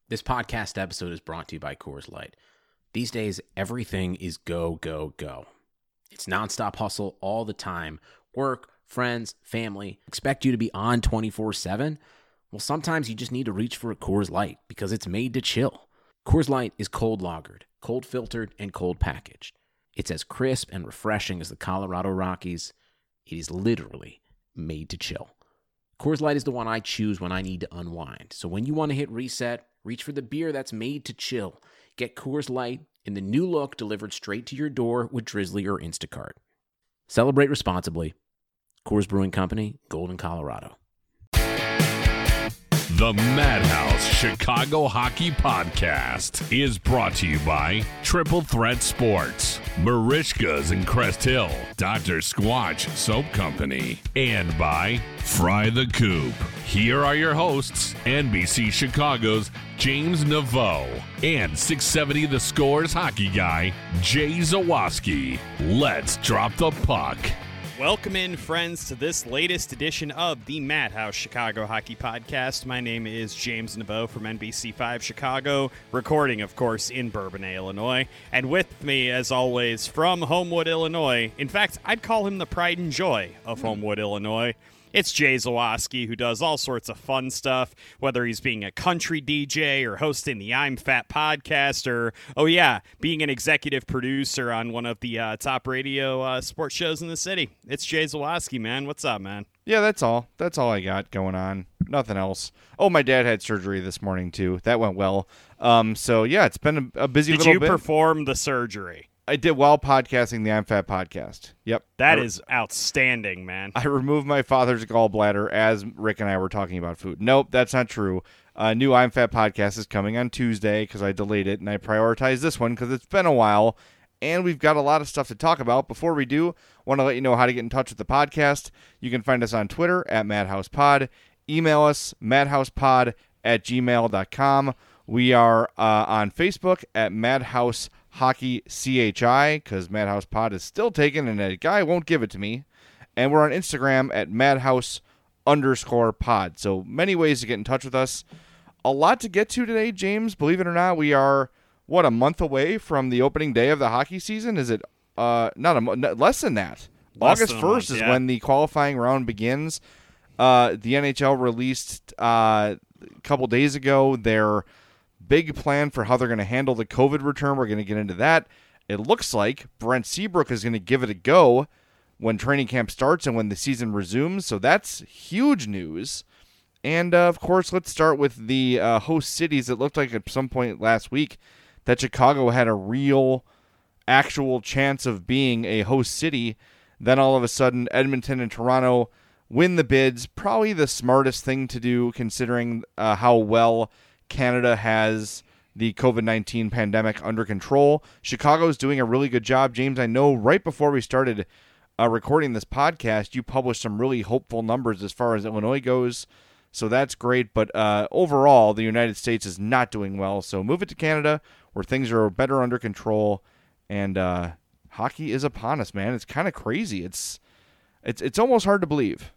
This podcast episode is brought to you by Coors Light. These days, everything is go, go, go. It's nonstop hustle all the time. Work, friends, family, expect you to be on 24/7. Well, sometimes you just need to reach for a Coors Light because it's made to chill. Coors Light is cold lagered, cold filtered, and cold packaged. It's as crisp and refreshing as the Colorado Rockies. It is literally made to chill. Coors Light is the one I choose when I need to unwind. So when you want to hit reset, reach for the beer that's made to chill. Get Coors Light in the new look delivered straight to your door with Drizzly or Instacart. Celebrate responsibly. Coors Brewing Company, Golden, Colorado. The Madhouse Chicago Hockey Podcast is brought to you by Triple Threat Sports, Marishka's in Crest Hill, Dr. Squatch Soap Company, and by Fry the Coop. Here are your hosts, NBC Chicago's James Naveau and 670 The Score's hockey guy, Jay Zawaski. Let's drop the puck. Welcome in, friends, to this latest edition of the Madhouse Chicago Hockey Podcast. My name is James Naveau from NBC5 Chicago, recording, of course, in Bourbonnais, Illinois. And with me, as always, from Homewood, Illinois, in fact, I'd call him the pride and joy of Homewood, Illinois, it's Jay Zawaski, who does all sorts of fun stuff, whether he's being a country DJ or hosting the I'm Fat podcast or, being an executive producer on one of the top radio sports shows in the city. It's Jay Zawaski, man. What's up, man? Yeah, that's all. That's all I got going on. Nothing else. Oh, my dad had surgery this morning, too. That went well. It's been a busy little bit. Did you perform the surgery? I did while podcasting the I'm Fat podcast. Yep. That is outstanding, man. I removed my father's gallbladder as Rick and I were talking about food. Nope, that's not true. New I'm Fat podcast is coming on Tuesday because I delayed it, and I prioritized this one because it's been a while, and we've got a lot of stuff to talk about. Before we do, want to let you know how to get in touch with the podcast. You can find us on Twitter at MadhousePod. Email us, madhousepod@gmail.com. We are on Facebook at Madhouse Hockey CHI, because Madhouse Pod is still taken and a guy won't give it to me. And we're on Instagram at Madhouse_pod. So many ways to get in touch with us. A lot to get to today, James. Believe it or not, we are, a month away from the opening day of the hockey season? Is it less than that? August 1st is when the qualifying round begins. The NHL released a couple days ago their big plan for how they're going to handle the COVID return. We're going to get into that. It looks like Brent Seabrook is going to give it a go when training camp starts and when the season resumes. So that's huge news. And, of course, let's start with the host cities. It looked like at some point last week that Chicago had a real, actual chance of being a host city. Then all of a sudden, Edmonton and Toronto win the bids. Probably the smartest thing to do considering how well Canada has the COVID-19 pandemic under control. Chicago's doing a really good job. James, I know right before we started recording this podcast, you published some really hopeful numbers as far as Illinois goes. So that's great. But overall, the United States is not doing well. So move it to Canada where things are better under control. And hockey is upon us, man. It's kind of crazy. It's almost hard to believe.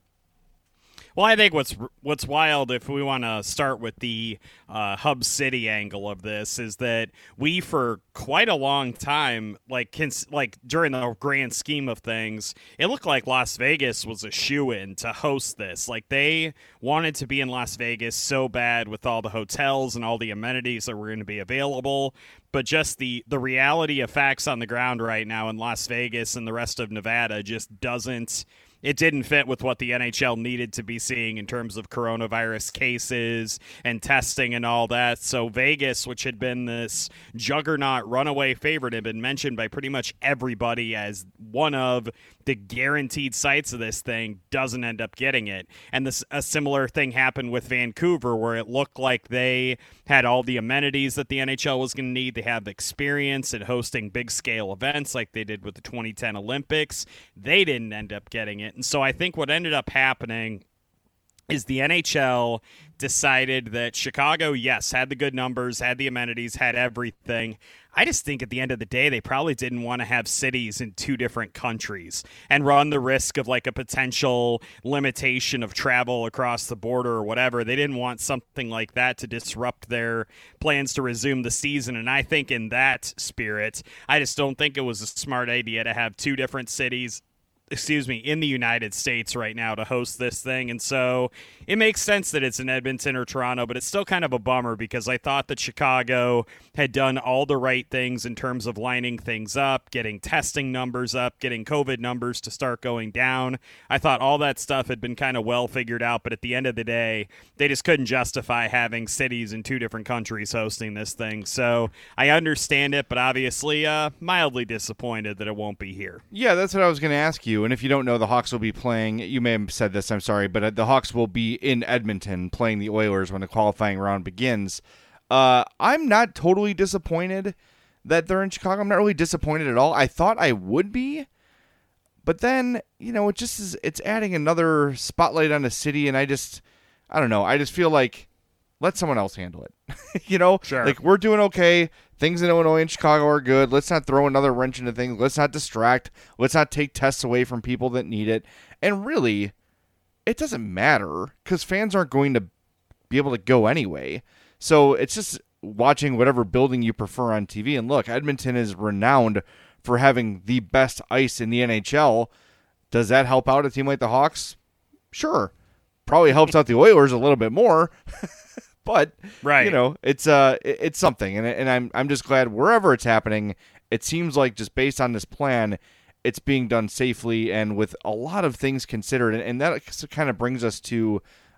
Well, I think what's wild, if we want to start with the hub city angle of this, is that we, for quite a long time, like during the grand scheme of things, it looked like Las Vegas was a shoo-in to host this. Like, they wanted to be in Las Vegas so bad with all the hotels and all the amenities that were going to be available. But just the reality of facts on the ground right now in Las Vegas and the rest of Nevada just doesn't. It didn't fit with what the NHL needed to be seeing in terms of coronavirus cases and testing and all that. So Vegas, which had been this juggernaut runaway favorite, had been mentioned by pretty much everybody as one of the guaranteed sites of this thing, doesn't end up getting it. And a similar thing happened with Vancouver, where it looked like they had all the amenities that the NHL was going to need. They have experience at hosting big-scale events like they did with the 2010 Olympics. They didn't end up getting it. And so I think what ended up happening is the NHL decided that Chicago, yes, had the good numbers, had the amenities, had everything. I just think at the end of the day, they probably didn't want to have cities in two different countries and run the risk of like a potential limitation of travel across the border or whatever. They didn't want something like that to disrupt their plans to resume the season. And I think in that spirit, I just don't think it was a smart idea to have two different cities in the United States right now to host this thing. And so it makes sense that it's in Edmonton or Toronto, but it's still kind of a bummer because I thought that Chicago had done all the right things in terms of lining things up, getting testing numbers up, getting COVID numbers to start going down. I thought all that stuff had been kind of well figured out, but at the end of the day, they just couldn't justify having cities in two different countries hosting this thing. So I understand it, but obviously mildly disappointed that it won't be here. Yeah, that's what I was going to ask you. And if you don't know, the Hawks will be playing, you may have said this, I'm sorry, but the Hawks will be in Edmonton playing the Oilers when the qualifying round begins. I'm not totally disappointed that they're in Chicago. I'm not really disappointed at all. I thought I would be, but then, it just is, it's adding another spotlight on the city, and I don't know. I just feel like, let someone else handle it. Sure. Like, we're doing okay. Things in Illinois and Chicago are good. Let's not throw another wrench into things. Let's not distract. Let's not take tests away from people that need it. And really, it doesn't matter because fans aren't going to be able to go anyway. So it's just watching whatever building you prefer on TV. And look, Edmonton is renowned for having the best ice in the NHL. Does that help out a team like the Hawks? Sure. Probably helps out the Oilers a little bit more. But, right. It's something, and I'm just glad wherever it's happening, it seems like just based on this plan, it's being done safely and with a lot of things considered, and that kind of brings us to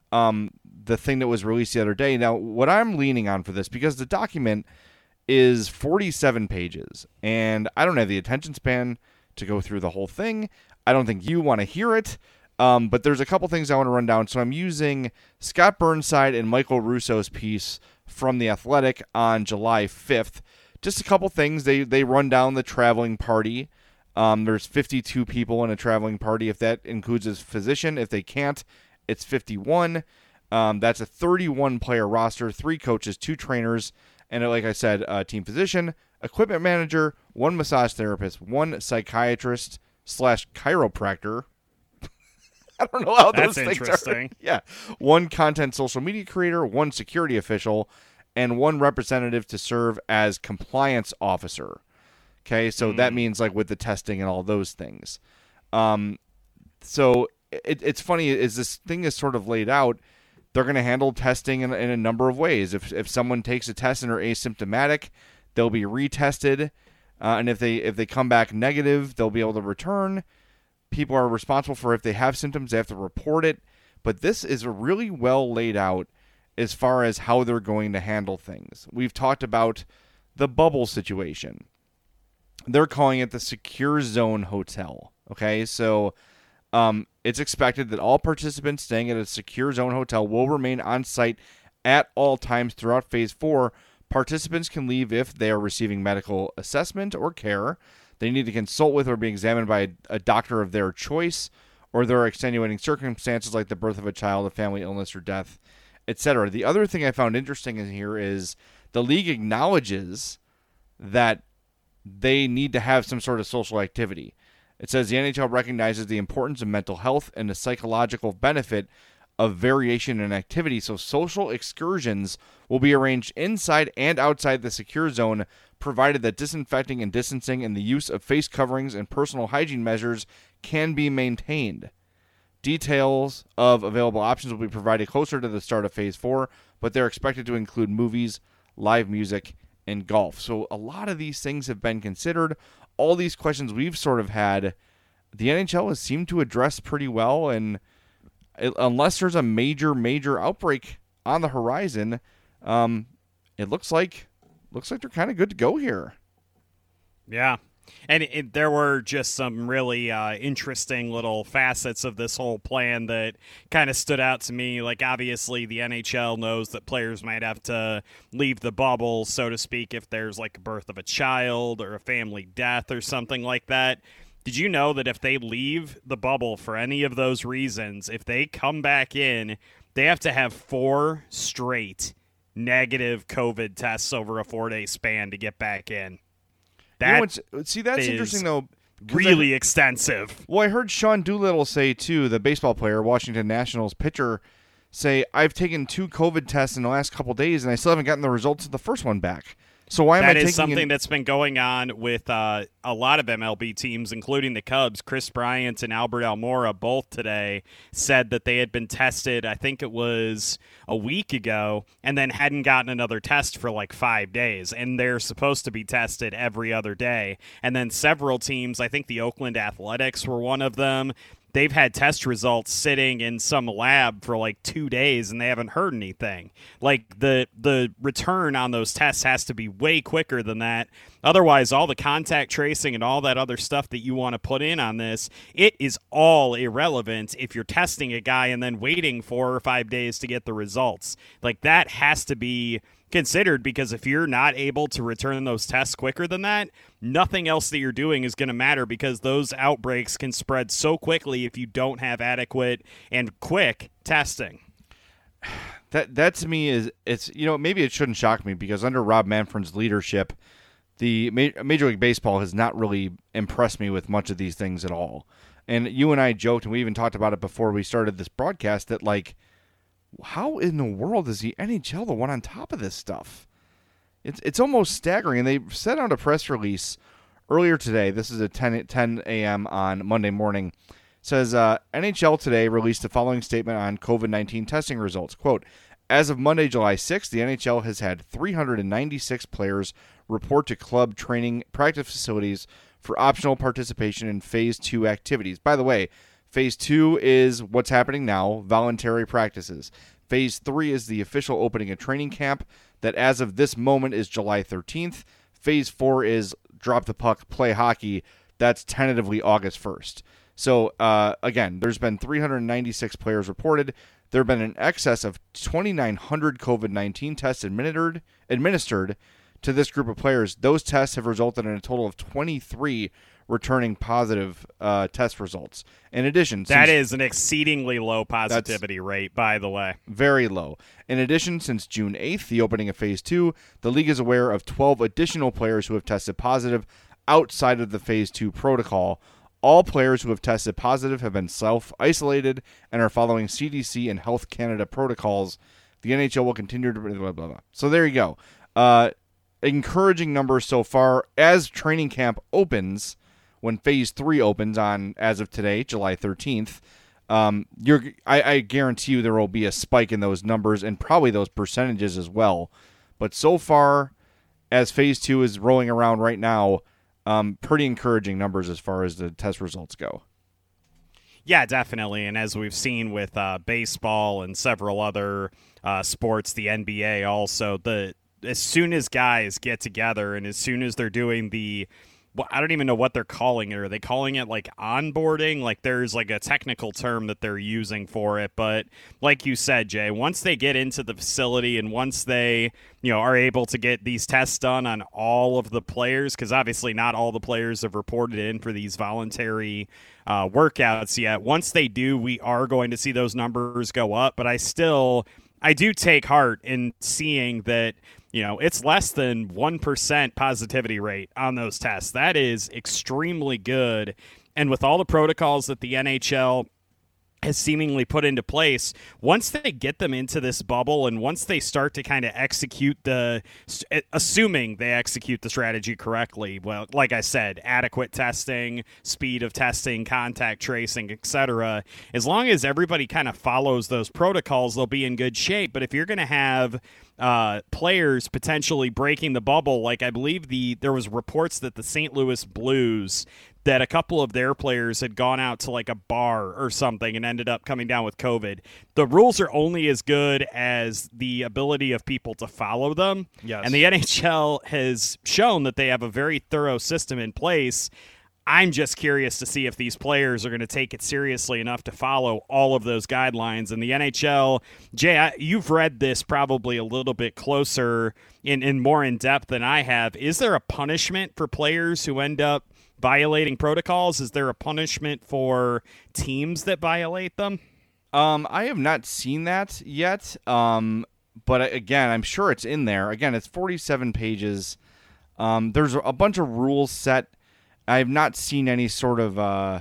the thing that was released the other day. Now, what I'm leaning on for this, because the document is 47 pages, and I don't have the attention span to go through the whole thing. I don't think you want to hear it. But there's a couple things I want to run down. So I'm using Scott Burnside and Michael Russo's piece from The Athletic on July 5th. Just a couple things. They run down the traveling party. There's 52 people in a traveling party, if that includes a physician. If they can't, it's 51. That's a 31-player roster, 3 coaches, 2 trainers, and like I said, a team physician, equipment manager, 1 massage therapist, 1 psychiatrist / chiropractor. I don't know how those things interesting. are. Yeah. 1 content social media creator, 1 security official, and 1 representative to serve as compliance officer. Okay, so that means like with the testing and all those things. So it's funny, as this thing is sort of laid out, they're going to handle testing in a number of ways. If someone takes a test and are asymptomatic, they'll be retested. And if they come back negative, they'll be able to return. People are responsible for if they have symptoms, they have to report it. But this is really well laid out as far as how they're going to handle things. We've talked about the bubble situation. They're calling it the Secure Zone Hotel. Okay, so it's expected that all participants staying at a Secure Zone Hotel will remain on site at all times throughout Phase 4. Participants can leave if they are receiving medical assessment or care. They need to consult with or be examined by a doctor of their choice, or there are extenuating circumstances like the birth of a child, a family illness, or death, etc. The other thing I found interesting in here is the league acknowledges that they need to have some sort of social activity. It says the NHL recognizes the importance of mental health and the psychological benefit of variation in activity, so social excursions will be arranged inside and outside the secure zone, provided that disinfecting and distancing and the use of face coverings and personal hygiene measures can be maintained. Details of available options will be provided closer to the start of Phase 4, but they're expected to include movies, live music, and golf. So a lot of these things have been considered. All these questions we've sort of had, the NHL has seemed to address pretty well, and unless there's a major outbreak on the horizon, it looks like they're kind of good to go here. Yeah. And there were just some really interesting little facets of this whole plan that kind of stood out to me. Like, obviously, the NHL knows that players might have to leave the bubble, so to speak, if there's like a birth of a child or a family death or something like that. Did you know that if they leave the bubble for any of those reasons, if they come back in, they have to have 4 straight negative COVID tests over a 4-day span to get back in? That's interesting, though. Really extensive. Well, I heard Sean Doolittle say, too, the baseball player, Washington Nationals pitcher, say, I've taken 2 COVID tests in the last couple days, and I still haven't gotten the results of the first one back. So why am I taking... That is something that's been going on with a lot of MLB teams, including the Cubs. Chris Bryant and Albert Almora both today said that they had been tested, I think it was a week ago, and then hadn't gotten another test for like 5 days. And they're supposed to be tested every other day. And then several teams, I think the Oakland Athletics were one of them, they've had test results sitting in some lab for like 2 days and they haven't heard anything. Like the return on those tests has to be way quicker than that. Otherwise, all the contact tracing and all that other stuff that you want to put in on this, it is all irrelevant if you're testing a guy and then waiting 4 or 5 days to get the results. Like that has to be considered, because if you're not able to return those tests quicker than that, nothing else that you're doing is going to matter, because those outbreaks can spread so quickly if you don't have adequate and quick testing. That to me is, it's, maybe it shouldn't shock me, because under Rob Manfred's leadership, the Major League Baseball has not really impressed me with much of these things at all. And you and I joked, and we even talked about it before we started this broadcast, that like, how in the world is the NHL the one on top of this stuff? It's almost staggering. And they sent out a press release earlier today. This is at 10 a.m. on Monday morning. It says, NHL today released the following statement on COVID-19 testing results. Quote, as of Monday, July 6th, the NHL has had 396 players report to club training practice facilities for optional participation in Phase 2 activities. By the way, Phase 2 is what's happening now, voluntary practices. Phase 3 is the official opening of training camp that as of this moment is July 13th. Phase 4 is drop the puck, play hockey. That's tentatively August 1st. So, again, there's been 396 players reported. There have been an excess of 2,900 COVID-19 tests administered to this group of players. Those tests have resulted in a total of 23 returning positive test results. In addition, that is an exceedingly low positivity rate, by the way. Very low. In addition, since June 8th, the opening of Phase 2, the league is aware of 12 additional players who have tested positive outside of the Phase 2 protocol. All players who have tested positive have been self-isolated and are following CDC and Health Canada protocols. The NHL will continue to... blah, blah, blah. So there you go. Encouraging numbers so far. As training camp opens, when Phase 3 opens on, as of today, July 13th, I guarantee you there will be a spike in those numbers and probably those percentages as well. But so far, as Phase 2 is rolling around right now, pretty encouraging numbers as far as the test results go. Yeah, definitely. And as we've seen with baseball and several other sports, the NBA also, as soon as guys get together and as soon as they're doing I don't even know what they're calling it. Are they calling it like onboarding? Like there's like a technical term that they're using for it. But like you said, Jay, once they get into the facility and once they, are able to get these tests done on all of the players, because obviously not all the players have reported in for these voluntary workouts yet. Once they do, we are going to see those numbers go up. But I do take heart in seeing that, it's less than 1% positivity rate on those tests. That is extremely good. And with all the protocols that the NHL has seemingly put into place, once they get them into this bubble and once they start to kind of execute assuming they execute the strategy correctly, well, like I said, adequate testing, speed of testing, contact tracing, etc., as long as everybody kind of follows those protocols, they'll be in good shape. But if you're going to have players potentially breaking the bubble, like I believe there was reports that the St. Louis Blues, that a couple of their players had gone out to like a bar or something and ended up coming down with COVID. The rules are only as good as the ability of people to follow them. Yes. And the NHL has shown that they have a very thorough system in place. I'm just curious to see if these players are going to take it seriously enough to follow all of those guidelines. And the NHL, Jay, you've read this probably a little bit closer in more in depth than I have. Is there a punishment for players who end up violating protocols? Is there a punishment for teams that violate them? I have not seen that yet. But again, I'm sure it's in there. Again, it's 47 pages. There's a bunch of rules set. I have not seen any sort of,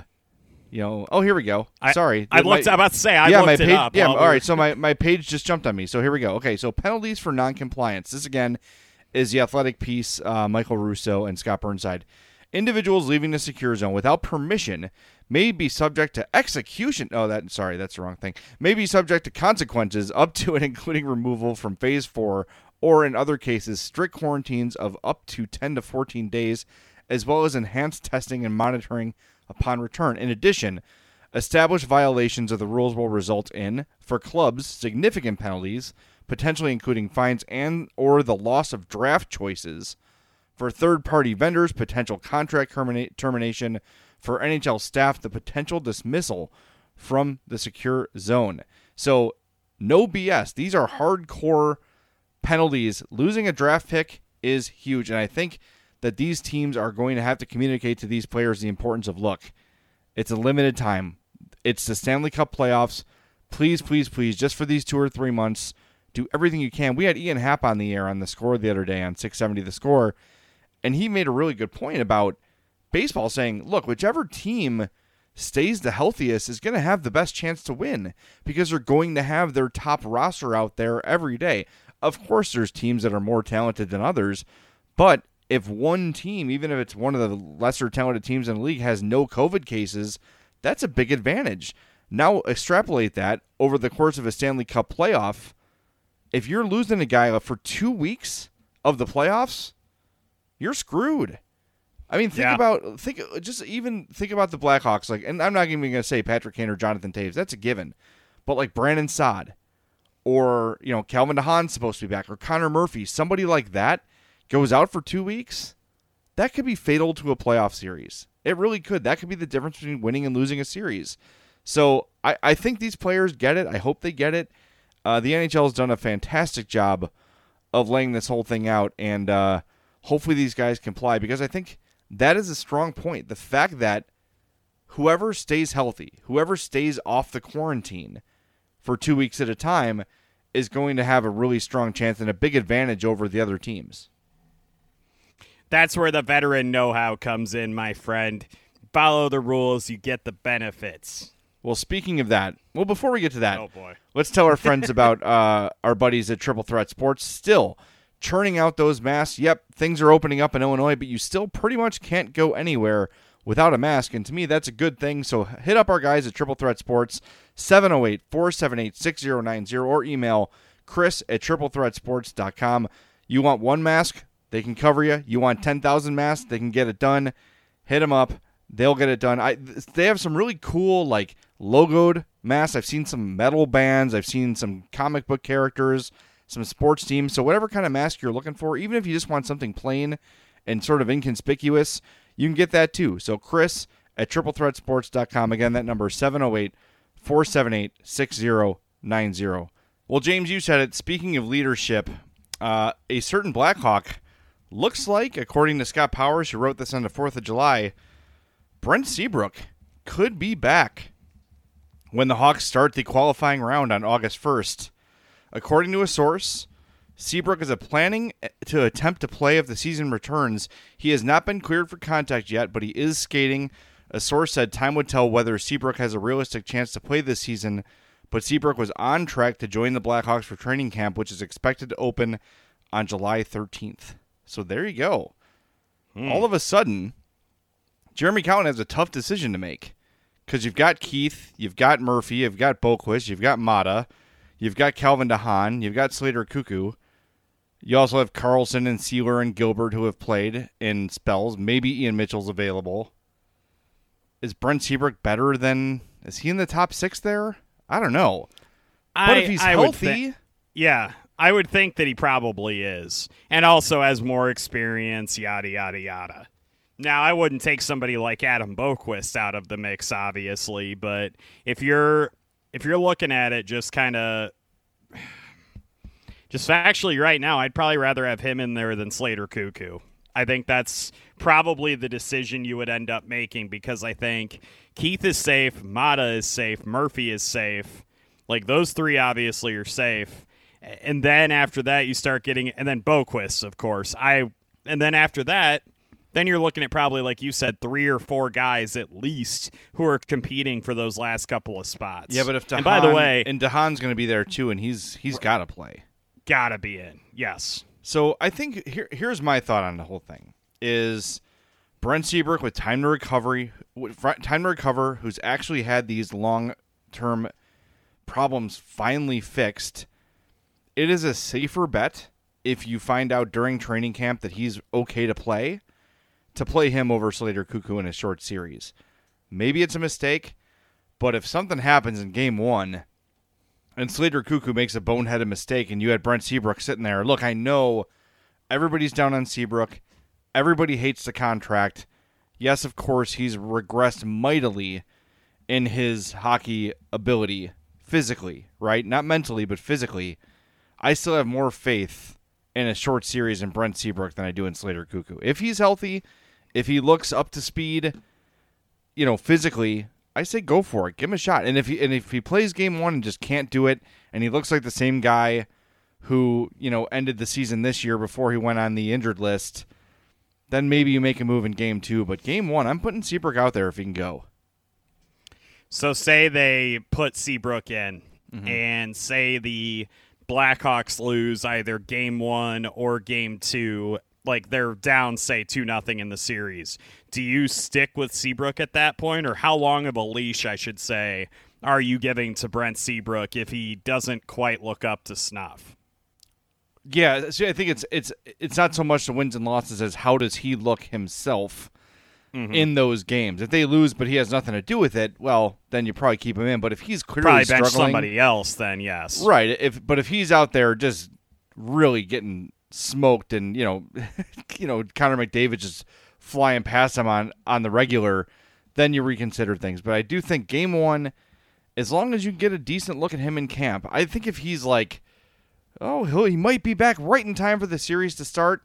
oh, here we go. Sorry. I'm about to say, I looked it up. Yeah, all right. So my page just jumped on me. So here we go. Okay, so penalties for noncompliance. This, again, is the Athletic piece, Michael Russo and Scott Burnside. Individuals leaving the secure zone without permission may be subject to execution. Oh, that's the wrong thing. May be subject to consequences up to and including removal from Phase 4, or in other cases, strict quarantines of up to 10 to 14 days, as well as enhanced testing and monitoring upon return. In addition, established violations of the rules will result in, for clubs, significant penalties, potentially including fines and or the loss of draft choices. For third-party vendors, potential contract termination. For NHL staff, the potential dismissal from the secure zone. So, no BS. These are hardcore penalties. Losing a draft pick is huge, and I think that these teams are going to have to communicate to these players the importance of, look, it's a limited time. It's the Stanley Cup playoffs. Please, please, please, just for these 2 or 3 months, do everything you can. We had Ian Happ on the air on The Score the other day on 670 The Score, and he made a really good point about baseball, saying, look, whichever team stays the healthiest is going to have the best chance to win because they're going to have their top roster out there every day. Of course, there's teams that are more talented than others, but if one team, even if it's one of the lesser talented teams in the league, has no COVID cases, that's a big advantage. Now extrapolate that over the course of a Stanley Cup playoff. If you're losing a guy for 2 weeks of the playoffs, you're screwed. I mean, think about the Blackhawks. And I'm not even going to say Patrick Kane or Jonathan Toews. That's a given. But like Brandon Saad, or Calvin DeHaan's supposed to be back, or Connor Murphy, somebody like that goes out for 2 weeks. That could be fatal to a playoff series. It really could. That could be the difference between winning and losing a series. So I think these players get it. I hope they get it. The NHL has done a fantastic job of laying this whole thing out, and hopefully these guys comply, because I think that is a strong point. The fact that whoever stays healthy, whoever stays off the quarantine for 2 weeks at a time, is going to have a really strong chance and a big advantage over the other teams. That's where the veteran know-how comes in, my friend. Follow the rules, you get the benefits. Well, speaking of that, before we get to that, oh boy, let's tell our friends about our buddies at Triple Threat Sports. Still churning out those masks. Yep, things are opening up in Illinois, but you still pretty much can't go anywhere without a mask, and to me, that's a good thing. So hit up our guys at Triple Threat Sports, 708-478-6090, or email chris@triplethreatsports.com. You want one mask? They can cover you. You want 10,000 masks? They can get it done. Hit them up. They'll get it done. They have some really cool, logoed masks. I've seen some metal bands. I've seen some comic book characters, some sports teams. So whatever kind of mask you're looking for, even if you just want something plain and sort of inconspicuous, you can get that too. So chris@triplethreatsports.com. Again, that number is 708-478-6090. Well, James, you said it. Speaking of leadership, a certain Blackhawk looks like, according to Scott Powers, who wrote this on the 4th of July, Brent Seabrook could be back when the Hawks start the qualifying round on August 1st. According to a source, Seabrook is planning to attempt to play if the season returns. He has not been cleared for contact yet, but he is skating. A source said time would tell whether Seabrook has a realistic chance to play this season, but Seabrook was on track to join the Blackhawks for training camp, which is expected to open on July 13th. So there you go. All of a sudden, Jeremy Colliton has a tough decision to make, because you've got Keith, you've got Murphy, you've got Boqvist, you've got Mata, you've got Calvin DeHaan, you've got Slater Cuckoo. You also have Carlson and Sealer and Gilbert who have played in spells. Maybe Ian Mitchell's available. Is Brent Seabrook better than... Is he in the top 6 there? I don't know. But if he's healthy... I would think that he probably is. And also has more experience, yada, yada, yada. Now, I wouldn't take somebody like Adam Boqvist out of the mix, obviously, but if you're looking at it just factually right now, I'd probably rather have him in there than Slater Cuckoo. I think that's probably the decision you would end up making, because I think Keith is safe, Mata is safe, Murphy is safe. Like, those three obviously are safe. And then after that, you start getting, and then Boquist, of course. And then after that, then you're looking at probably, like you said, 3 or 4 guys at least who are competing for those last couple of spots. Yeah, but if and by the way, Dahan's going to be there too, and he's got to play. Gotta be in, yes. So I think here's my thought on the whole thing: is Brent Seabrook with time to recover, who's actually had these long-term problems finally fixed. It is a safer bet if you find out during training camp that he's okay to play him over Slater Cuckoo in a short series. Maybe it's a mistake, but if something happens in game 1 and Slater Cuckoo makes a boneheaded mistake and you had Brent Seabrook sitting there, look, I know everybody's down on Seabrook. Everybody hates the contract. Yes, of course, he's regressed mightily in his hockey ability physically, right? Not mentally, but physically. I still have more faith in a short series in Brent Seabrook than I do in Slater Cuckoo. If he's healthy, if he looks up to speed, physically, I say go for it. Give him a shot. And if he plays game 1 and just can't do it, and he looks like the same guy who, ended the season this year before he went on the injured list, then maybe you make a move in game 2. But game 1, I'm putting Seabrook out there if he can go. So say they put Seabrook in, and say the Blackhawks lose either game 1 or game 2, like they're down, say, 2-0 in the series. Do you stick with Seabrook at that point, or how long of a leash, I should say, are you giving to Brent Seabrook if he doesn't quite look up to snuff? Yeah, so I think it's not so much the wins and losses as how does he look himself in those games. If they lose but he has nothing to do with it, well, then you probably keep him in. But if he's clearly probably struggling, bench somebody else, then yes. Right. But if he's out there just really getting smoked and, Connor McDavid just flying past him on the regular, then you reconsider things. But I do think game 1, as long as you get a decent look at him in camp, I think if he's like, he might be back right in time for the series to start,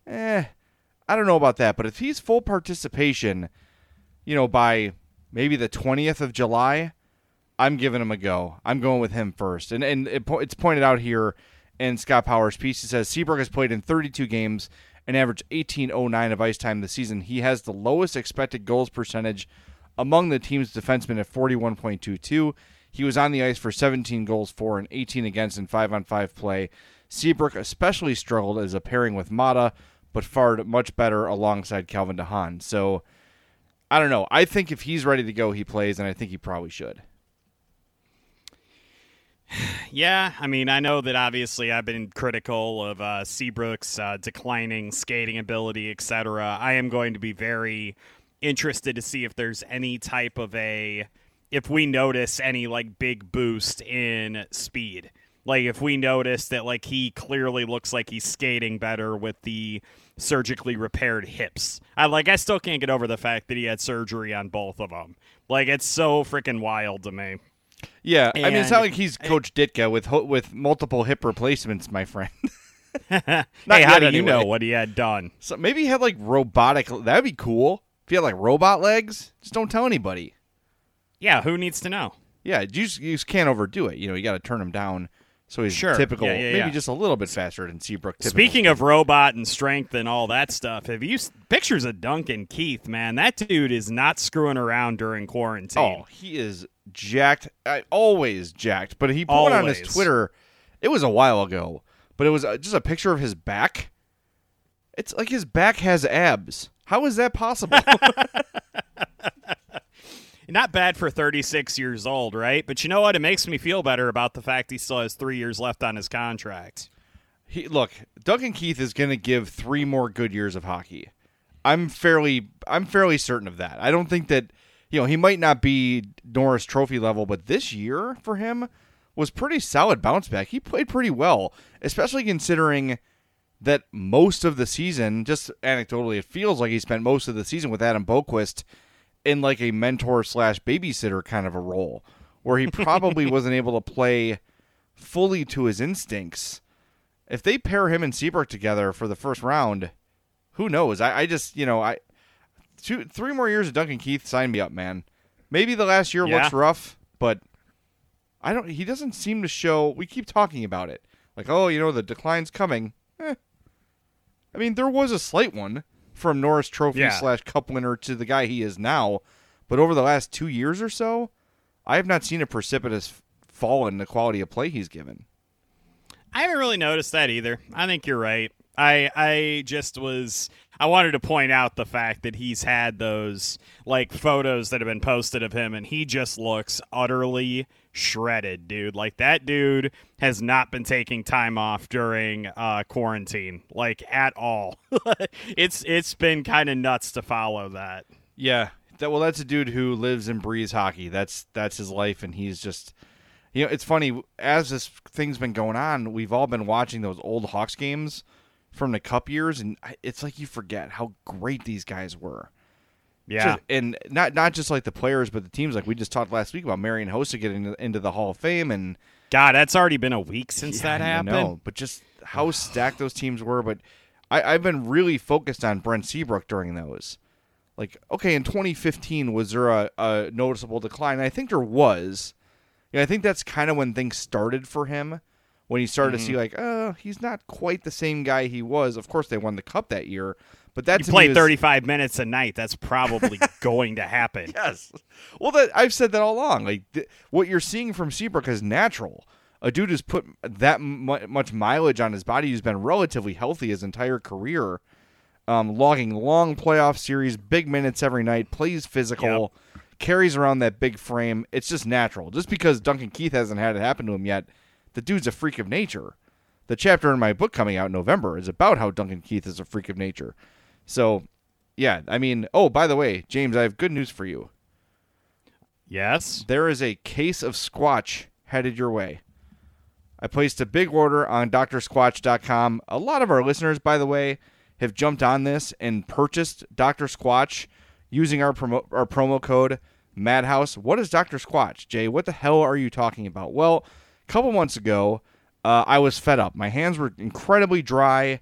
I don't know about that. But if he's full participation, by maybe the 20th of July, I'm giving him a go. I'm going with him first. And it's pointed out here in Scott Power's piece. He says Seabrook has played in 32 games and averaged 18.09 of ice time this season. He has the lowest expected goals percentage among the team's defensemen at 41.22. He was on the ice for 17 goals for and 18 against in 5-on-5 play. Seabrook especially struggled as a pairing with Mata, but fared much better alongside Calvin DeHaan. So, I don't know. I think if he's ready to go, he plays, and I think he probably should. Yeah, I mean, I know that obviously I've been critical of Seabrook's declining skating ability, etc. I am going to be very interested to see if there's any type of if we notice any, like, big boost in speed. Like, if we notice that, like, he clearly looks like he's skating better with the surgically repaired hips. I still can't get over the fact that he had surgery on both of them. Like, it's so freaking wild to me. Yeah, I mean, it's not like he's Coach Ditka with multiple hip replacements, my friend. Hey, how do you know what he had done? So maybe he had, like, robotic... That'd be cool. If he had, like, robot legs, just don't tell anybody. Yeah, who needs to know? Yeah, you just can't overdo it. You got to turn him down so he's typical, maybe just a little bit faster than Seabrook. Speaking of robot and strength and all that stuff, have you pictures of Duncan Keith, man? That dude is not screwing around during quarantine. Oh, he is jacked. Always jacked. But he put on his Twitter, it was a while ago, but it was just a picture of his back. It's like his back has abs. How is that possible? Not bad for 36 years old, right? But you know what? It makes me feel better about the fact he still has 3 years left on his contract. Look, Duncan Keith is going to give 3 more good years of hockey. I'm fairly certain of that. I don't think that, he might not be Norris Trophy level, but this year for him was pretty solid bounce back. He played pretty well, especially considering that most of the season, just anecdotally, it feels like he spent most of the season with Adam Boquist in like a mentor/babysitter kind of a role, where he probably wasn't able to play fully to his instincts. If they pair him and Seabrook together for the first round, who knows? I just, 3 more years of Duncan Keith, sign me up, man. Maybe the last year looks rough, but he doesn't seem to show. We keep talking about it. Like, the decline's coming. I mean, there was a slight one from Norris Trophy / Cup winner to the guy he is now. But over the last 2 years or so, I have not seen a precipitous fall in the quality of play he's given. I haven't really noticed that either. I think you're right. I wanted to point out the fact that he's had those like photos that have been posted of him, and he just looks utterly shredded, dude. Like, that dude has not been taking time off during quarantine, like, at all. It's been kind of nuts to follow that. Yeah. That's a dude who lives and breathes hockey. That's his life, and he's just, it's funny, as this thing's been going on, we've all been watching those old Hawks games from the Cup years, and it's like you forget how great these guys were. Yeah. And not just like the players, but the teams. Like we just talked last week about Marian Hossa getting into the Hall of Fame. And God, that's already been a week since that happened. I know, but just how stacked those teams were. But I've been really focused on Brent Seabrook during those. Like, okay, in 2015, was there a noticeable decline? I think there was. I think that's kind of when things started for him, when he started to see, like, he's not quite the same guy he was. Of course, they won the Cup that year. But that's you play 35 minutes a night. That's probably going to happen. Yes. Well, I've said that all along. Like, what you're seeing from Seabrook is natural. A dude who's put that much mileage on his body, who's been relatively healthy his entire career, logging long playoff series, big minutes every night, plays physical, carries around that big frame. It's just natural. Just because Duncan Keith hasn't had it happen to him yet, the dude's a freak of nature. The chapter in my book coming out in November is about how Duncan Keith is a freak of nature. So, yeah, I mean, by the way, James, I have good news for you. Yes? There is a case of Squatch headed your way. I placed a big order on drsquatch.com. A lot of our listeners, by the way, have jumped on this and purchased Dr. Squatch using our promo code Madhouse. What is Dr. Squatch, Jay? What the hell are you talking about? Well, a couple months ago, I was fed up. My hands were incredibly dry.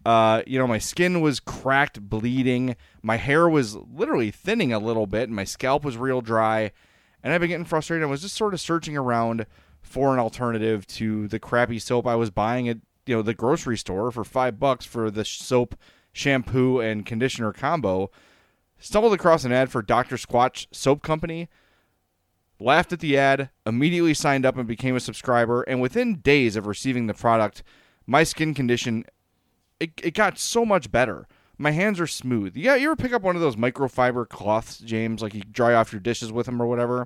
My skin was cracked, bleeding. My hair was literally thinning a little bit, and my scalp was real dry. And I've been getting frustrated. I was just sort of searching around for an alternative to the crappy soap I was buying at the grocery store for $5 for the soap, shampoo, and conditioner combo. Stumbled across an ad for Dr. Squatch Soap Company. Laughed at the ad, immediately signed up and became a subscriber. And within days of receiving the product, my skin condition, it got so much better. My hands are smooth. Yeah, you ever pick up one of those microfiber cloths, James, like you dry off your dishes with them or whatever?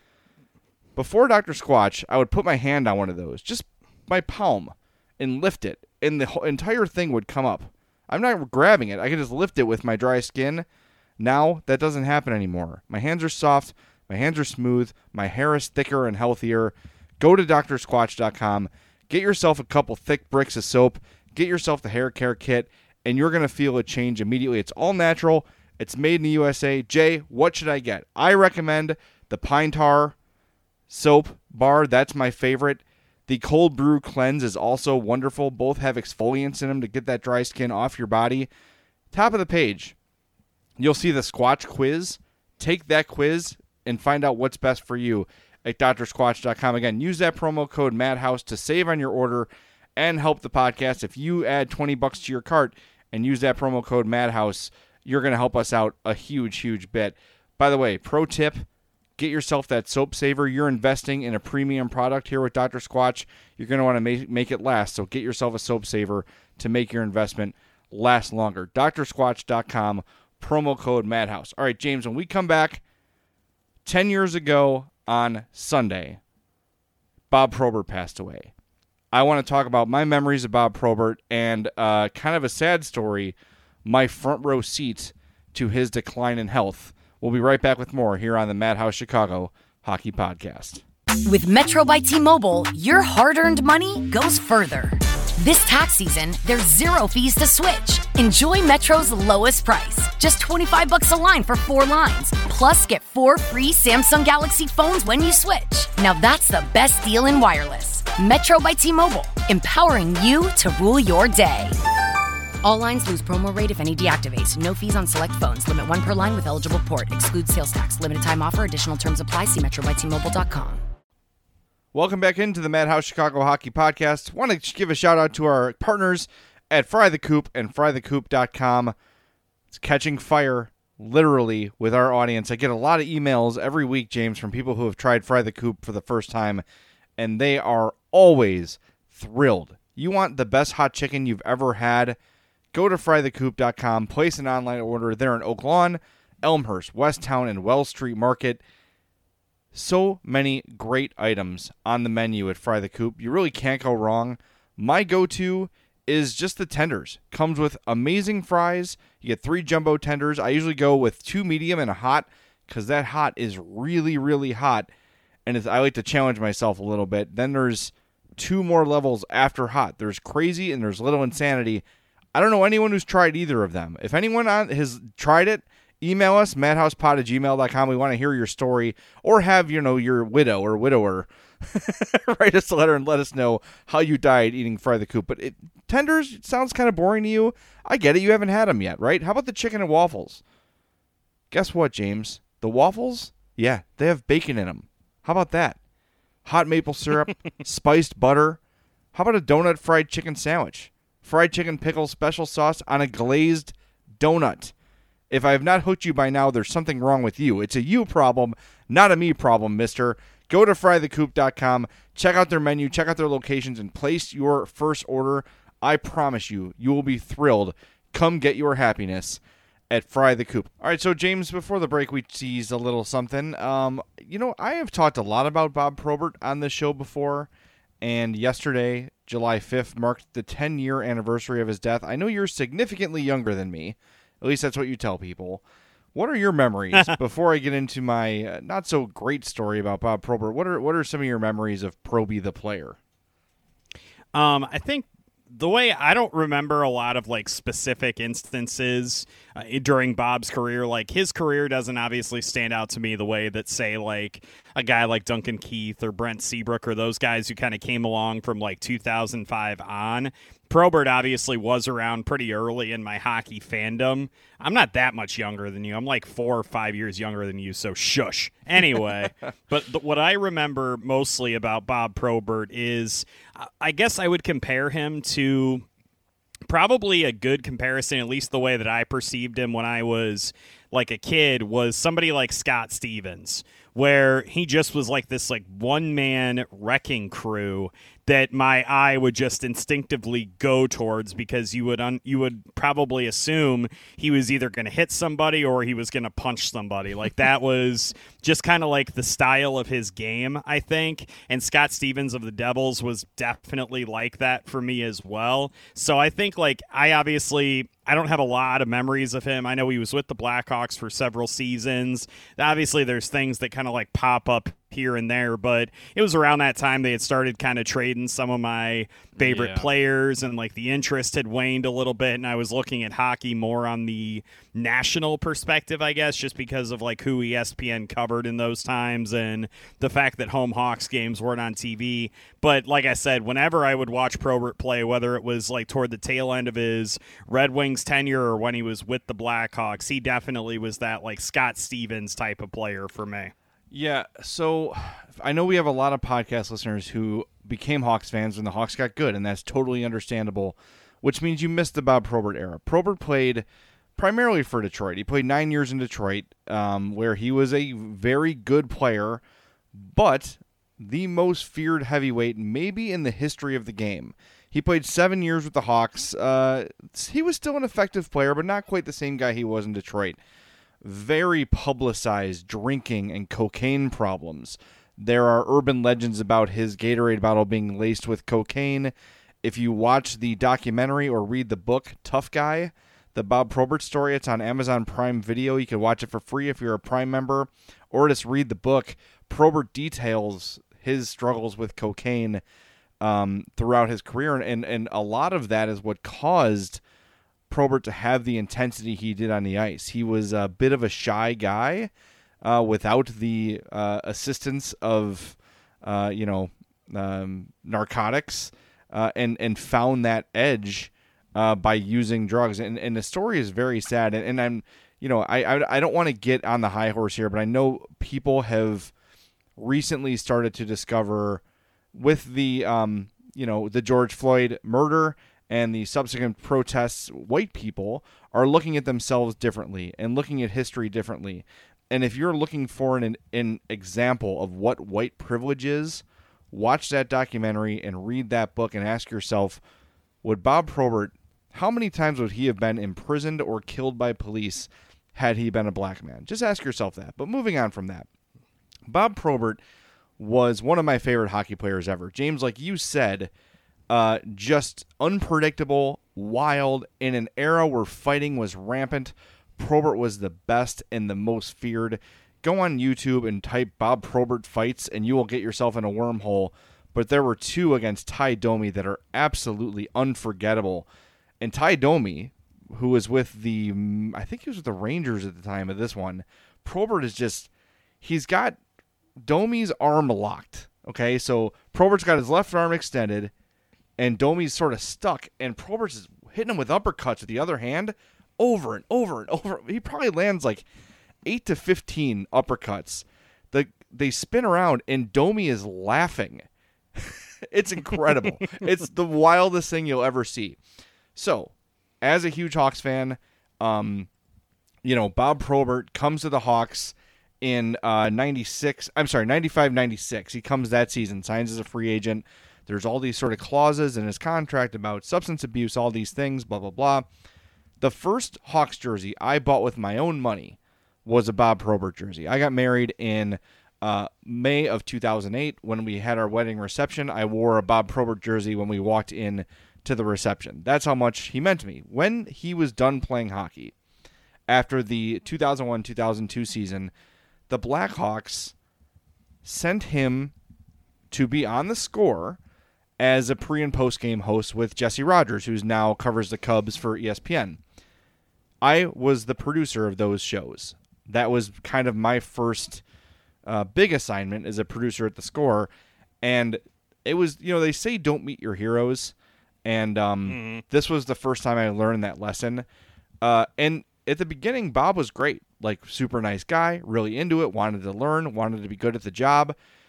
Before Dr. Squatch, I would put my hand on one of those, just my palm, and lift it, and the entire thing would come up. I'm not grabbing it. I can just lift it with my dry skin. Now, that doesn't happen anymore. My hands are soft. My hands are smooth. My hair is thicker and healthier. Go to drsquatch.com. Get yourself a couple thick bricks of soap. Get yourself the hair care kit, and you're going to feel a change immediately. It's all natural. It's made in the USA. Jay, what should I get? I recommend the Pine Tar soap bar. That's my favorite. The Cold Brew Cleanse is also wonderful. Both have exfoliants in them to get that dry skin off your body. Top of the page, you'll see the Squatch quiz. Take that quiz and find out what's best for you at drsquatch.com. Again, use that promo code Madhouse to save on your order and help the podcast. If you add $20 to your cart and use that promo code Madhouse, you're going to help us out a huge, huge bit. By the way, pro tip, get yourself that soap saver. You're investing in a premium product here with Dr. Squatch. You're going to want to make it last, so get yourself a soap saver to make your investment last longer. drsquatch.com, promo code Madhouse. All right, James, when we come back, 10 years ago on Sunday, Bob Probert passed away. I want to talk about my memories of Bob Probert and kind of a sad story, my front row seat to his decline in health. We'll be right back with more here on the Madhouse Chicago Hockey Podcast. With Metro by T-Mobile, your hard-earned money goes further. This tax season, there's zero fees to switch. Enjoy Metro's lowest price, just $25 a line for 4 lines. Plus, get 4 free Samsung Galaxy phones when you switch. Now that's the best deal in wireless. Metro by T-Mobile, empowering you to rule your day. All lines lose promo rate if any deactivates. No fees on select phones. Limit 1 per line with eligible port. Excludes sales tax. Limited time offer. Additional terms apply. See MetroByTMobile.com. Welcome back into the Madhouse Chicago Hockey Podcast. Want to give a shout out to our partners at Fry the Coop and FryTheCoop.com. It's catching fire, literally, with our audience. I get a lot of emails every week, James, from people who have tried Fry the Coop for the first time, and they are always thrilled. You want the best hot chicken you've ever had? Go to FryTheCoop.com, place an online order. They're in Oak Lawn, Elmhurst, Westtown, and Wells Street Market. So many great items on the menu at Fry the Coop. You really can't go wrong. My go-to is just the tenders. Comes with amazing fries. You get 3 jumbo tenders. I usually go with 2 medium and a hot because that hot is really, really hot. And I like to challenge myself a little bit. Then there's 2 more levels after hot. There's crazy and there's little insanity. I don't know anyone who's tried either of them. If anyone has tried it, email us, madhousepod@gmail.com. We want to hear your story, or have, your widow or widower write us a letter and let us know how you died eating Fry the Coop. But tenders sounds kind of boring to you. I get it. You haven't had them yet, right? How about the chicken and waffles? Guess what, James? The waffles? Yeah, they have bacon in them. How about that? Hot maple syrup, spiced butter. How about a donut fried chicken sandwich? Fried chicken pickle special sauce on a glazed donut. If I have not hooked you by now, there's something wrong with you. It's a you problem, not a me problem, mister. Go to FryTheCoop.com, check out their menu, check out their locations, and place your first order. I promise you, you will be thrilled. Come get your happiness at Fry the Coop. All right, so James, before the break, we teased a little something. I have talked a lot about Bob Probert on this show before, and yesterday, July 5th, marked the 10-year anniversary of his death. I know you're significantly younger than me. At least that's what you tell people. What are your memories, before I get into my not-so-great story about Bob Probert, what are some of your memories of Proby the player? I think the way I don't remember a lot of specific instances during Bob's career. His career doesn't obviously stand out to me the way that, say, a guy like Duncan Keith or Brent Seabrook or those guys who kind of came along from 2005 on. Probert obviously was around pretty early in my hockey fandom. I'm not that much younger than you. I'm 4 or 5 years younger than you, so shush. Anyway, but what I remember mostly about Bob Probert is I guess I would compare him to probably a good comparison, at least the way that I perceived him when I was a kid, was somebody like Scott Stevens, where he just was this one-man wrecking crew that my eye would just instinctively go towards, because you would probably assume he was either going to hit somebody or he was going to punch somebody. That was just kind of the style of his game, I think. And Scott Stevens of the Devils was definitely like that for me as well. So I think I don't have a lot of memories of him. I know he was with the Blackhawks for several seasons. Obviously, there's things that kind of pop up here and there, but it was around that time they had started kind of trading some of my favorite players, and the interest had waned a little bit, and I was looking at hockey more on the national perspective, I guess, just because of who ESPN covered in those times and the fact that home Hawks games weren't on TV. But like I said, whenever I would watch Probert play, whether it was toward the tail end of his Red Wings tenure or when he was with the Blackhawks, he definitely was that Scott Stevens type of player for me. Yeah, so I know we have a lot of podcast listeners who became Hawks fans when the Hawks got good, and that's totally understandable, which means you missed the Bob Probert era. Probert played primarily for Detroit. He played 9 years in Detroit, where he was a very good player, but the most feared heavyweight maybe in the history of the game. He played 7 years with the Hawks. He was still an effective player, but not quite the same guy he was in Detroit. Very publicized drinking and cocaine problems. There are urban legends about his Gatorade bottle being laced with cocaine. If you watch the documentary or read the book Tough Guy, the Bob Probert story, it's on Amazon Prime Video. You can watch it for free if you're a Prime member, or just read the book. Probert details his struggles with cocaine throughout his career, and a lot of that is what caused Probert to have the intensity he did on the ice. He was a bit of a shy guy without the assistance of narcotics, and found that edge by using drugs. And the story is very sad. And I'm, I don't want to get on the high horse here, but I know people have recently started to discover with the, the George Floyd murder and the subsequent protests, white people are looking at themselves differently and looking at history differently. And if you're looking for an example of what white privilege is, watch that documentary and read that book and ask yourself, would Bob Probert, how many times would he have been imprisoned or killed by police had he been a black man? Just ask yourself that. But moving on from that, Bob Probert was one of my favorite hockey players ever. James, like you said, just unpredictable, wild, in an era where fighting was rampant. Probert was the best and the most feared. Go on YouTube and type Bob Probert fights and you will get yourself in a wormhole. But there were two against Ty Domi that are absolutely unforgettable. And Ty Domi, who was with I think he was with the Rangers at the time of this one, Probert is just, he's got Domi's arm locked. Okay, so Probert's got his left arm extended and Domi's sort of stuck, and Probert's is hitting him with uppercuts with the other hand over and over and over. He probably lands like 8 to 15 uppercuts. They spin around, and Domi is laughing. It's incredible. It's the wildest thing you'll ever see. So, as a huge Hawks fan, Bob Probert comes to the Hawks in 95-96. He comes that season, signs as a free agent. There's all these sort of clauses in his contract about substance abuse, all these things, blah, blah, blah. The first Hawks jersey I bought with my own money was a Bob Probert jersey. I got married in May of 2008. When we had our wedding reception, I wore a Bob Probert jersey when we walked in to the reception. That's how much he meant to me. When he was done playing hockey, after the 2001-2002 season, the Blackhawks sent him to be on the Score as a pre- and post-game host with Jesse Rogers, who now covers the Cubs for ESPN. I was the producer of those shows. That was kind of my first big assignment as a producer at the Score. And it was, they say don't meet your heroes. And this was the first time I learned that lesson. And at the beginning, Bob was great. Like, super nice guy, really into it, wanted to learn, wanted to be good at the job.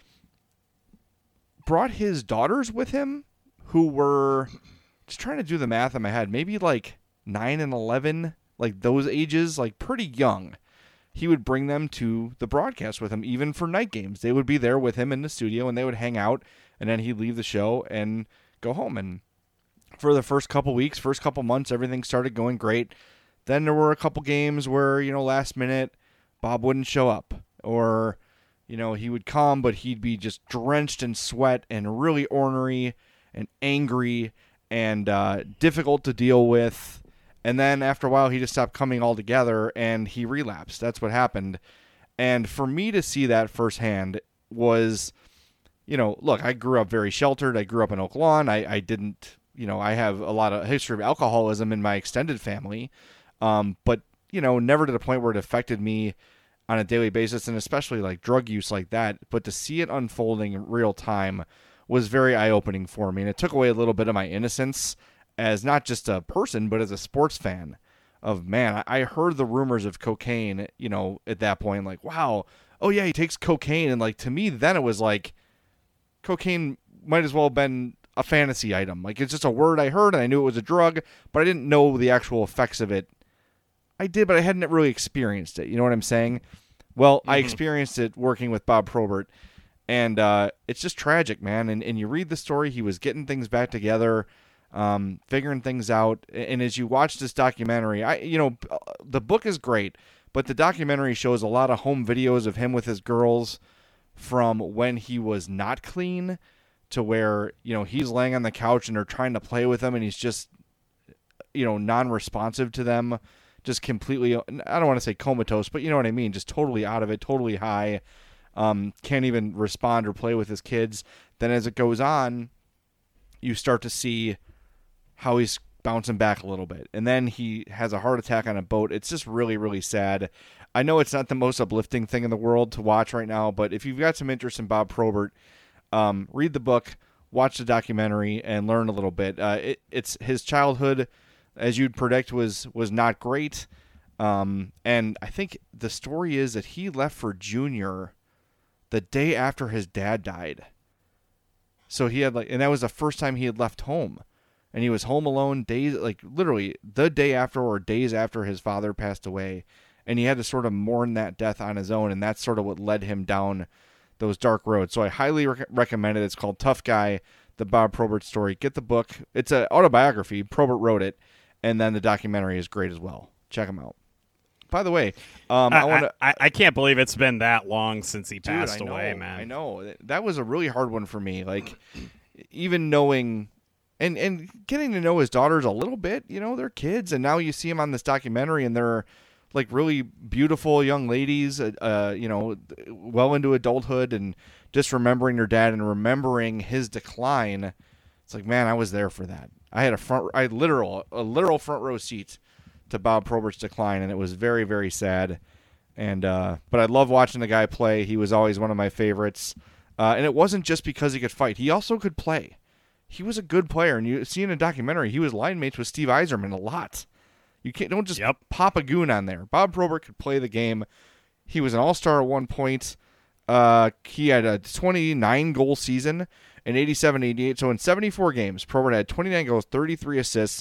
Brought his daughters with him, who were, just trying to do the math in my head, maybe like 9 and 11, like those ages, like pretty young. He would bring them to the broadcast with him, even for night games. They would be there with him in the studio, and they would hang out, and then he'd leave the show and go home. And for the first couple weeks, first couple months, everything started going great. Then there were a couple games where, last minute, Bob wouldn't show up, or he would come, but he'd be just drenched in sweat and really ornery and angry and difficult to deal with. And then after a while, he just stopped coming altogether and he relapsed. That's what happened. And for me to see that firsthand was, look, I grew up very sheltered. I grew up in Oak Lawn. I didn't, I have a lot of history of alcoholism in my extended family. But, never to the point where it affected me on a daily basis, and especially like drug use like that. But to see it unfolding in real time was very eye-opening for me. And it took away a little bit of my innocence as not just a person, but as a sports fan of, man, I heard the rumors of cocaine, at that point, like, wow, oh yeah, he takes cocaine. And like, to me, then it was like cocaine might as well have been a fantasy item. Like, it's just a word I heard and I knew it was a drug, but I didn't know the actual effects of it. I did, but I hadn't really experienced it. You know what I'm saying? Well, I experienced it working with Bob Probert, and it's just tragic, man. And you read the story, he was getting things back together, figuring things out. And as you watch this documentary, the book is great, but the documentary shows a lot of home videos of him with his girls from when he was not clean to where, he's laying on the couch and they're trying to play with him and he's just, non-responsive to them. Just completely, I don't want to say comatose, but you know what I mean, just totally out of it, totally high, can't even respond or play with his kids. Then as it goes on, you start to see how he's bouncing back a little bit. And then he has a heart attack on a boat. It's just really, really sad. I know it's not the most uplifting thing in the world to watch right now, but if you've got some interest in Bob Probert, read the book, watch the documentary, and learn a little bit. It's his childhood as you'd predict, was not great. And I think the story is that he left for junior the day after his dad died. So he had and that was the first time he had left home, and he was home alone literally the day after or days after his father passed away, and he had to sort of mourn that death on his own, and that's sort of what led him down those dark roads. So I highly recommend it. It's called Tough Guy, the Bob Probert story. Get the book. It's an autobiography. Probert wrote it, and then the documentary is great as well. Check them out. By the way, I can't believe it's been that long since he passed away, man. I know. That was a really hard one for me. Like, even knowing and getting to know his daughters a little bit, they're kids, and now you see them on this documentary, and they're like really beautiful young ladies, well into adulthood, and just remembering their dad and remembering his decline. It's like, man, I was there for that. I had a literal front row seat to Bob Probert's decline, and it was very, very sad. And but I love watching the guy play. He was always one of my favorites. And it wasn't just because he could fight. He also could play. He was a good player. And you see in a documentary, he was line mates with Steve Yzerman a lot. You don't just pop a goon on there. Bob Probert could play the game. He was an all-star at one point. He had a 29-goal season in 87-88. So in 74 games, Probert had 29 goals, 33 assists,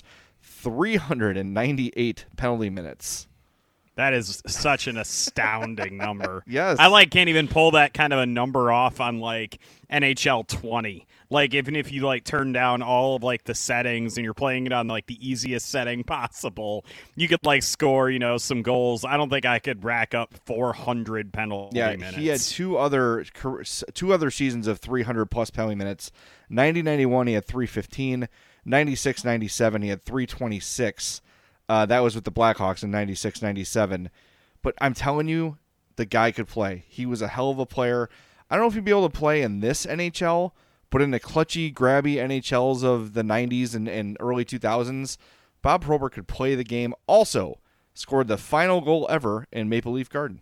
398 penalty minutes. That is such an astounding number. Yes. I can't even pull that kind of a number off on NHL 20. Even if you turn down all of the settings and you're playing it on the easiest setting possible, you could score, some goals. I don't think I could rack up 400 penalty minutes. He had two other seasons of 300 plus penalty minutes. 90-91 he had 315. 96-97 he had 326. That was with the Blackhawks in 96-97. But I'm telling you, the guy could play. He was a hell of a player. I don't know if he'd be able to play in this NHL, but in the clutchy, grabby NHLs of the 90s and early 2000s, Bob Probert could play the game. Also scored the final goal ever in Maple Leaf Garden.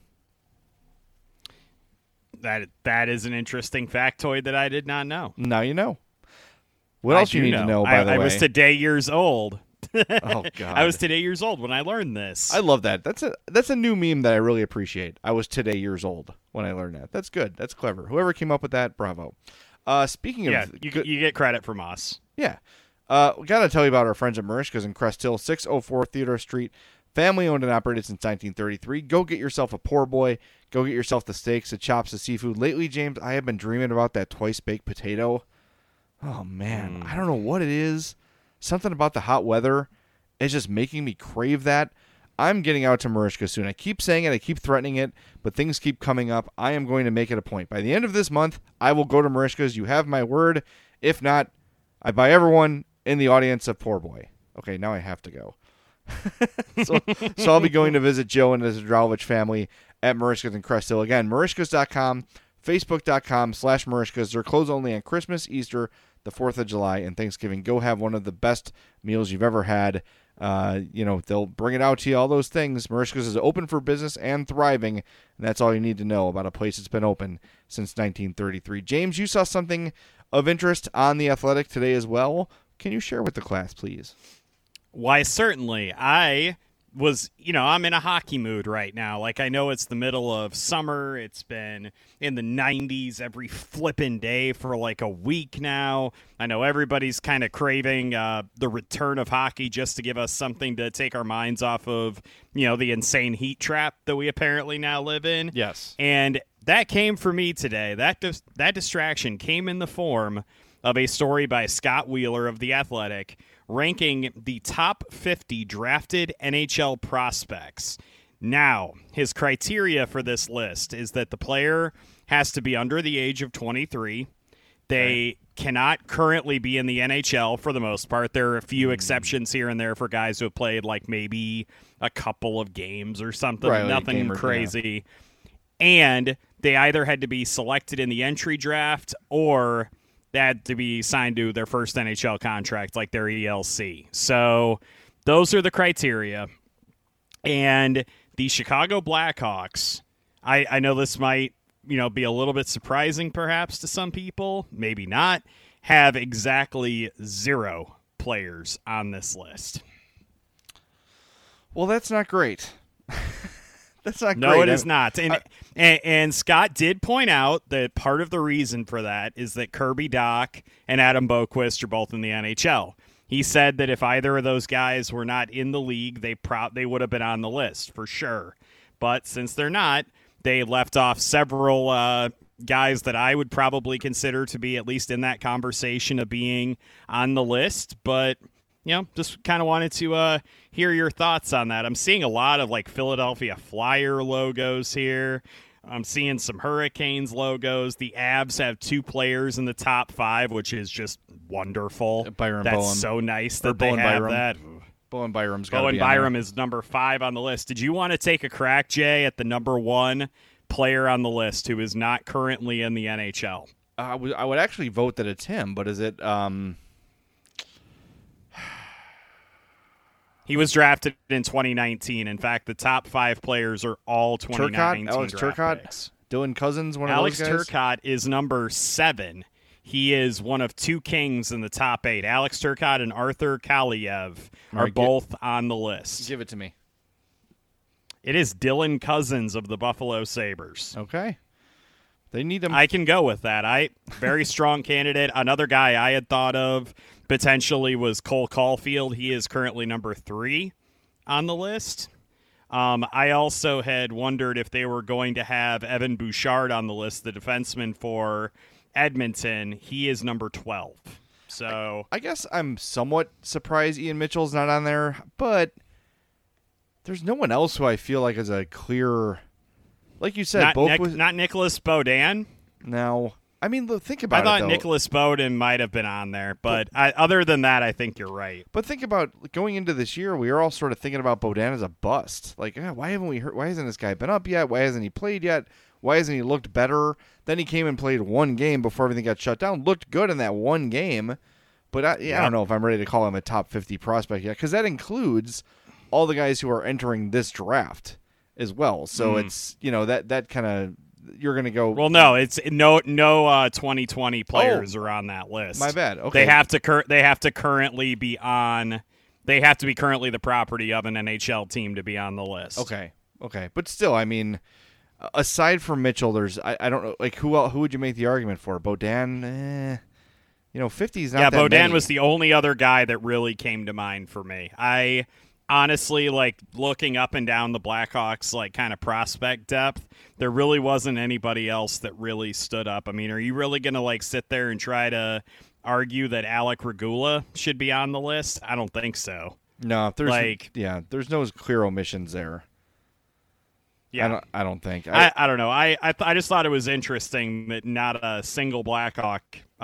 That is an interesting factoid that I did not know. Now you know. What else do you need to know, by the way? I was today years old. Oh, God. I was today years old when I learned this. I love that. That's a new meme that I really appreciate. I was today years old when I learned that. That's good. That's clever. Whoever came up with that, bravo. Speaking of... you get credit from us. Yeah. We got to tell you about our friends at Marishka's in Crest Hill, 604 Theodore Street. Family owned and operated since 1933. Go get yourself a poor boy. Go get yourself the steaks, the chops, the seafood. Lately, James, I have been dreaming about that twice-baked potato. Oh, man. I don't know what it is. Something about the hot weather is just making me crave that. I'm getting out to Marishka soon. I keep saying it. I keep threatening it, but things keep coming up. I am going to make it a point. By the end of this month, I will go to Marishka's. You have my word. If not, I buy everyone in the audience a poor boy. Okay, now I have to go. so I'll be going to visit Joe and the Zdravovich family at Marishka's in Crest Hill. Again, Marishkas.com, Facebook.com/Marishkas. They're closed only on Christmas, Easter, the 4th of July, and Thanksgiving. Go have one of the best meals you've ever had. They'll bring it out to you, all those things. Marishka's is open for business and thriving, and that's all you need to know about a place that's been open since 1933. James, you saw something of interest on The Athletic today as well. Can you share with the class, please? Why, certainly. I was, I'm in a hockey mood right now. I know it's the middle of summer. It's been in the 90s every flippin' day for a week now. I know everybody's kind of craving the return of hockey just to give us something to take our minds off of, the insane heat trap that we apparently now live in. Yes. And that came for me today. That distraction came in the form of a story by Scott Wheeler of The Athletic, ranking the top 50 drafted NHL prospects. Now, his criteria for this list is that the player has to be under the age of 23. They cannot currently be in the NHL for the most part. There are a few exceptions here and there for guys who have played maybe a couple of games or something, nothing crazy. Yeah. And they either had to be selected in the entry draft or they had to be signed to their first NHL contract, like their ELC. So those are the criteria. And the Chicago Blackhawks, I know this might, be a little bit surprising perhaps to some people, maybe not, have exactly 0 players on this list. Well, that's not great. That's not great. No, it is not. And Scott did point out that part of the reason for that is that Kirby Dach and Adam Boqvist are both in the NHL. He said that if either of those guys were not in the league, they would have been on the list for sure. But since they're not, they left off several guys that I would probably consider to be at least in that conversation of being on the list. But, just kind of wanted to hear your thoughts on that. I'm seeing a lot of like Philadelphia Flyer logos here. I'm seeing some Hurricanes logos. The Avs have 2 players in the top 5, which is just wonderful. Byron That's Bowen. so nice that Or they Bowen have Byram. that. Bowen Byram's got to Bowen be on there. Byram is number 5 on the list. Did you want to take a crack, Jay, at the number 1 player on the list who is not currently in the NHL? I would actually vote that it's him, but is it? He was drafted in 2019. In fact, the top 5 players are all 2019 Alex draft Turcotte, picks. Dylan Cousins, one Alex of those guys. Turcotte is number 7. He is one of 2 Kings in the top 8. Alex Turcotte and Arthur Kaliev All are right, both on the list. Give it to me. It is Dylan Cousins of the Buffalo Sabres. Okay. They need him. I can go with that. Very strong candidate. Another guy I had thought of potentially was Cole Caulfield. He is currently number 3 on the list. I also had wondered if they were going to have Evan Bouchard on the list, the defenseman for Edmonton. He is number 12. So I guess I'm somewhat surprised Ian Mitchell's not on there, but there's no one else who I feel like is a clear, like you said, not Nicholas Beaudin. No. I mean, think about I it, thought though. Nicholas Beaudin might have been on there, but other than that, I think you're right. But think about going into this year, we were all sort of thinking about Beaudin as a bust. Like, why haven't we heard? Why hasn't this guy been up yet? Why hasn't he played yet? Why hasn't he looked better? Then he came and played 1 game before everything got shut down. Looked good in that 1 game, but I don't know if I'm ready to call him a top 50 prospect yet, because that includes all the guys who are entering this draft as well. So it's that kind of. You're going to go. Well, no, it's no 2020 players are on that list. My bad. Okay. They have to currently be on. They have to be currently the property of an NHL team to be on the list. Okay. But still, I mean, aside from Mitchell, there's I don't know, like who would you make the argument for? Beaudin, 50 is not that Beaudin many. was the only other guy that really came to mind for me. I honestly, like, looking up and down the Blackhawks, like, kind of prospect depth, there really wasn't anybody else that really stood up. I mean, are you really going to, like, sit there and try to argue that Alec Regula should be on the list? I don't think so. No, there's no clear omissions there. Yeah, I don't think. I don't know. I just thought it was interesting that not a single Blackhawk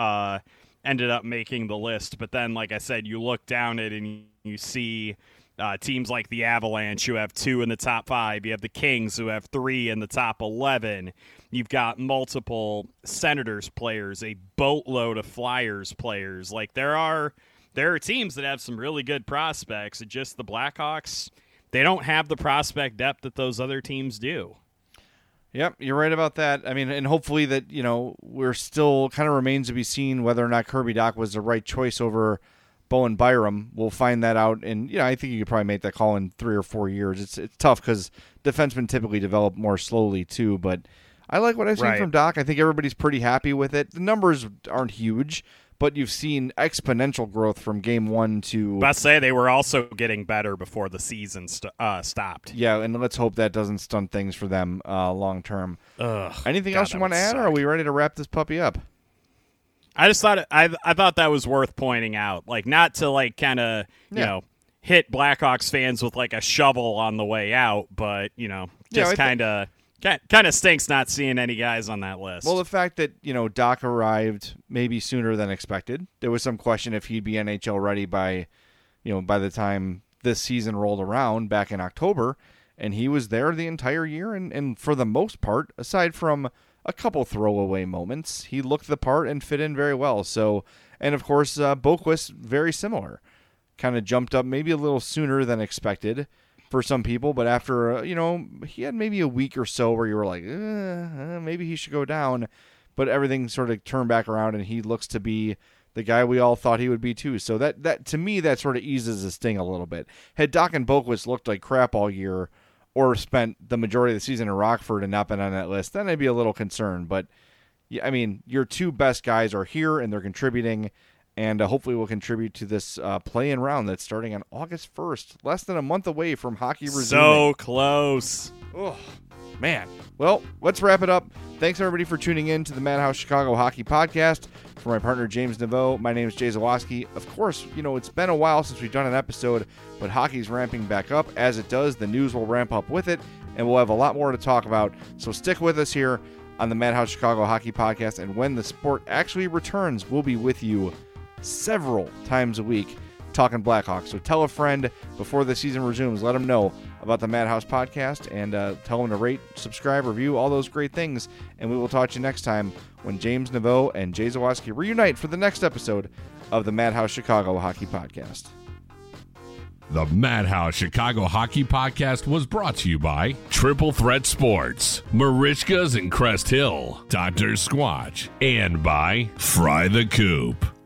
ended up making the list. But then, like I said, you look down it and you see teams like the Avalanche who have 2 in the top 5. You have the Kings who have 3 in the top 11. You've got multiple Senators players, a boatload of Flyers players. Like there are teams that have some really good prospects. It's just the Blackhawks, they don't have the prospect depth that those other teams do. Yep, you're right about that. I mean, and hopefully that, we're still kind of remains to be seen whether or not Kirby Dach was the right choice over Bowen Byram. We'll find that out, and I think you could probably make that call in 3 or 4 years. It's tough because defensemen typically develop more slowly too. But I like what I've seen from Dach. I think everybody's pretty happy with it. The numbers aren't huge, but you've seen exponential growth from game 1 to. I say they were also getting better before the season stopped. Yeah, and let's hope that doesn't stunt things for them long term. Anything God, else you want to add, or are we ready to wrap this puppy up? I just thought I thought that was worth pointing out, like not to like kind of hit Blackhawks fans with like a shovel on the way out, but just kind of stinks not seeing any guys on that list. Well, the fact that Dach arrived maybe sooner than expected. There was some question if he'd be NHL ready by the time this season rolled around back in October, and he was there the entire year, and for the most part, aside from a couple throwaway moments, he looked the part and fit in very well. So, and of course, Boqvist, very similar. Kind of jumped up maybe a little sooner than expected for some people, but after, he had maybe a week or so where you were like, maybe he should go down, but everything sort of turned back around, and he looks to be the guy we all thought he would be too. So that to me, that sort of eases the sting a little bit. Had Dokken Boquist looked like crap all year or spent the majority of the season in Rockford and not been on that list, then I'd be a little concerned. But, yeah, I mean, your two best guys are here and they're contributing, and hopefully will contribute to this play-in round that's starting on August 1st, less than a month away from hockey resuming. So close. Oh, man. Well, let's wrap it up. Thanks, everybody, for tuning in to the Madhouse Chicago Hockey Podcast. For my partner, James Naveau, my name is Jay Zawaski. Of course, it's been a while since we've done an episode, but hockey's ramping back up. As it does, the news will ramp up with it, and we'll have a lot more to talk about. So stick with us here on the Madhouse Chicago Hockey Podcast, and when the sport actually returns, we'll be with you several times a week talking Blackhawks. So tell a friend before the season resumes. Let them know about the Madhouse Podcast, and tell them to rate, subscribe, review, all those great things. And we will talk to you next time when James Naveau and Jay Zawaski reunite for the next episode of the Madhouse Chicago Hockey Podcast. The Madhouse Chicago Hockey Podcast was brought to you by Triple Threat Sports, Marishkas and Crest Hill, Dr. Squatch, and by Fry the Coop.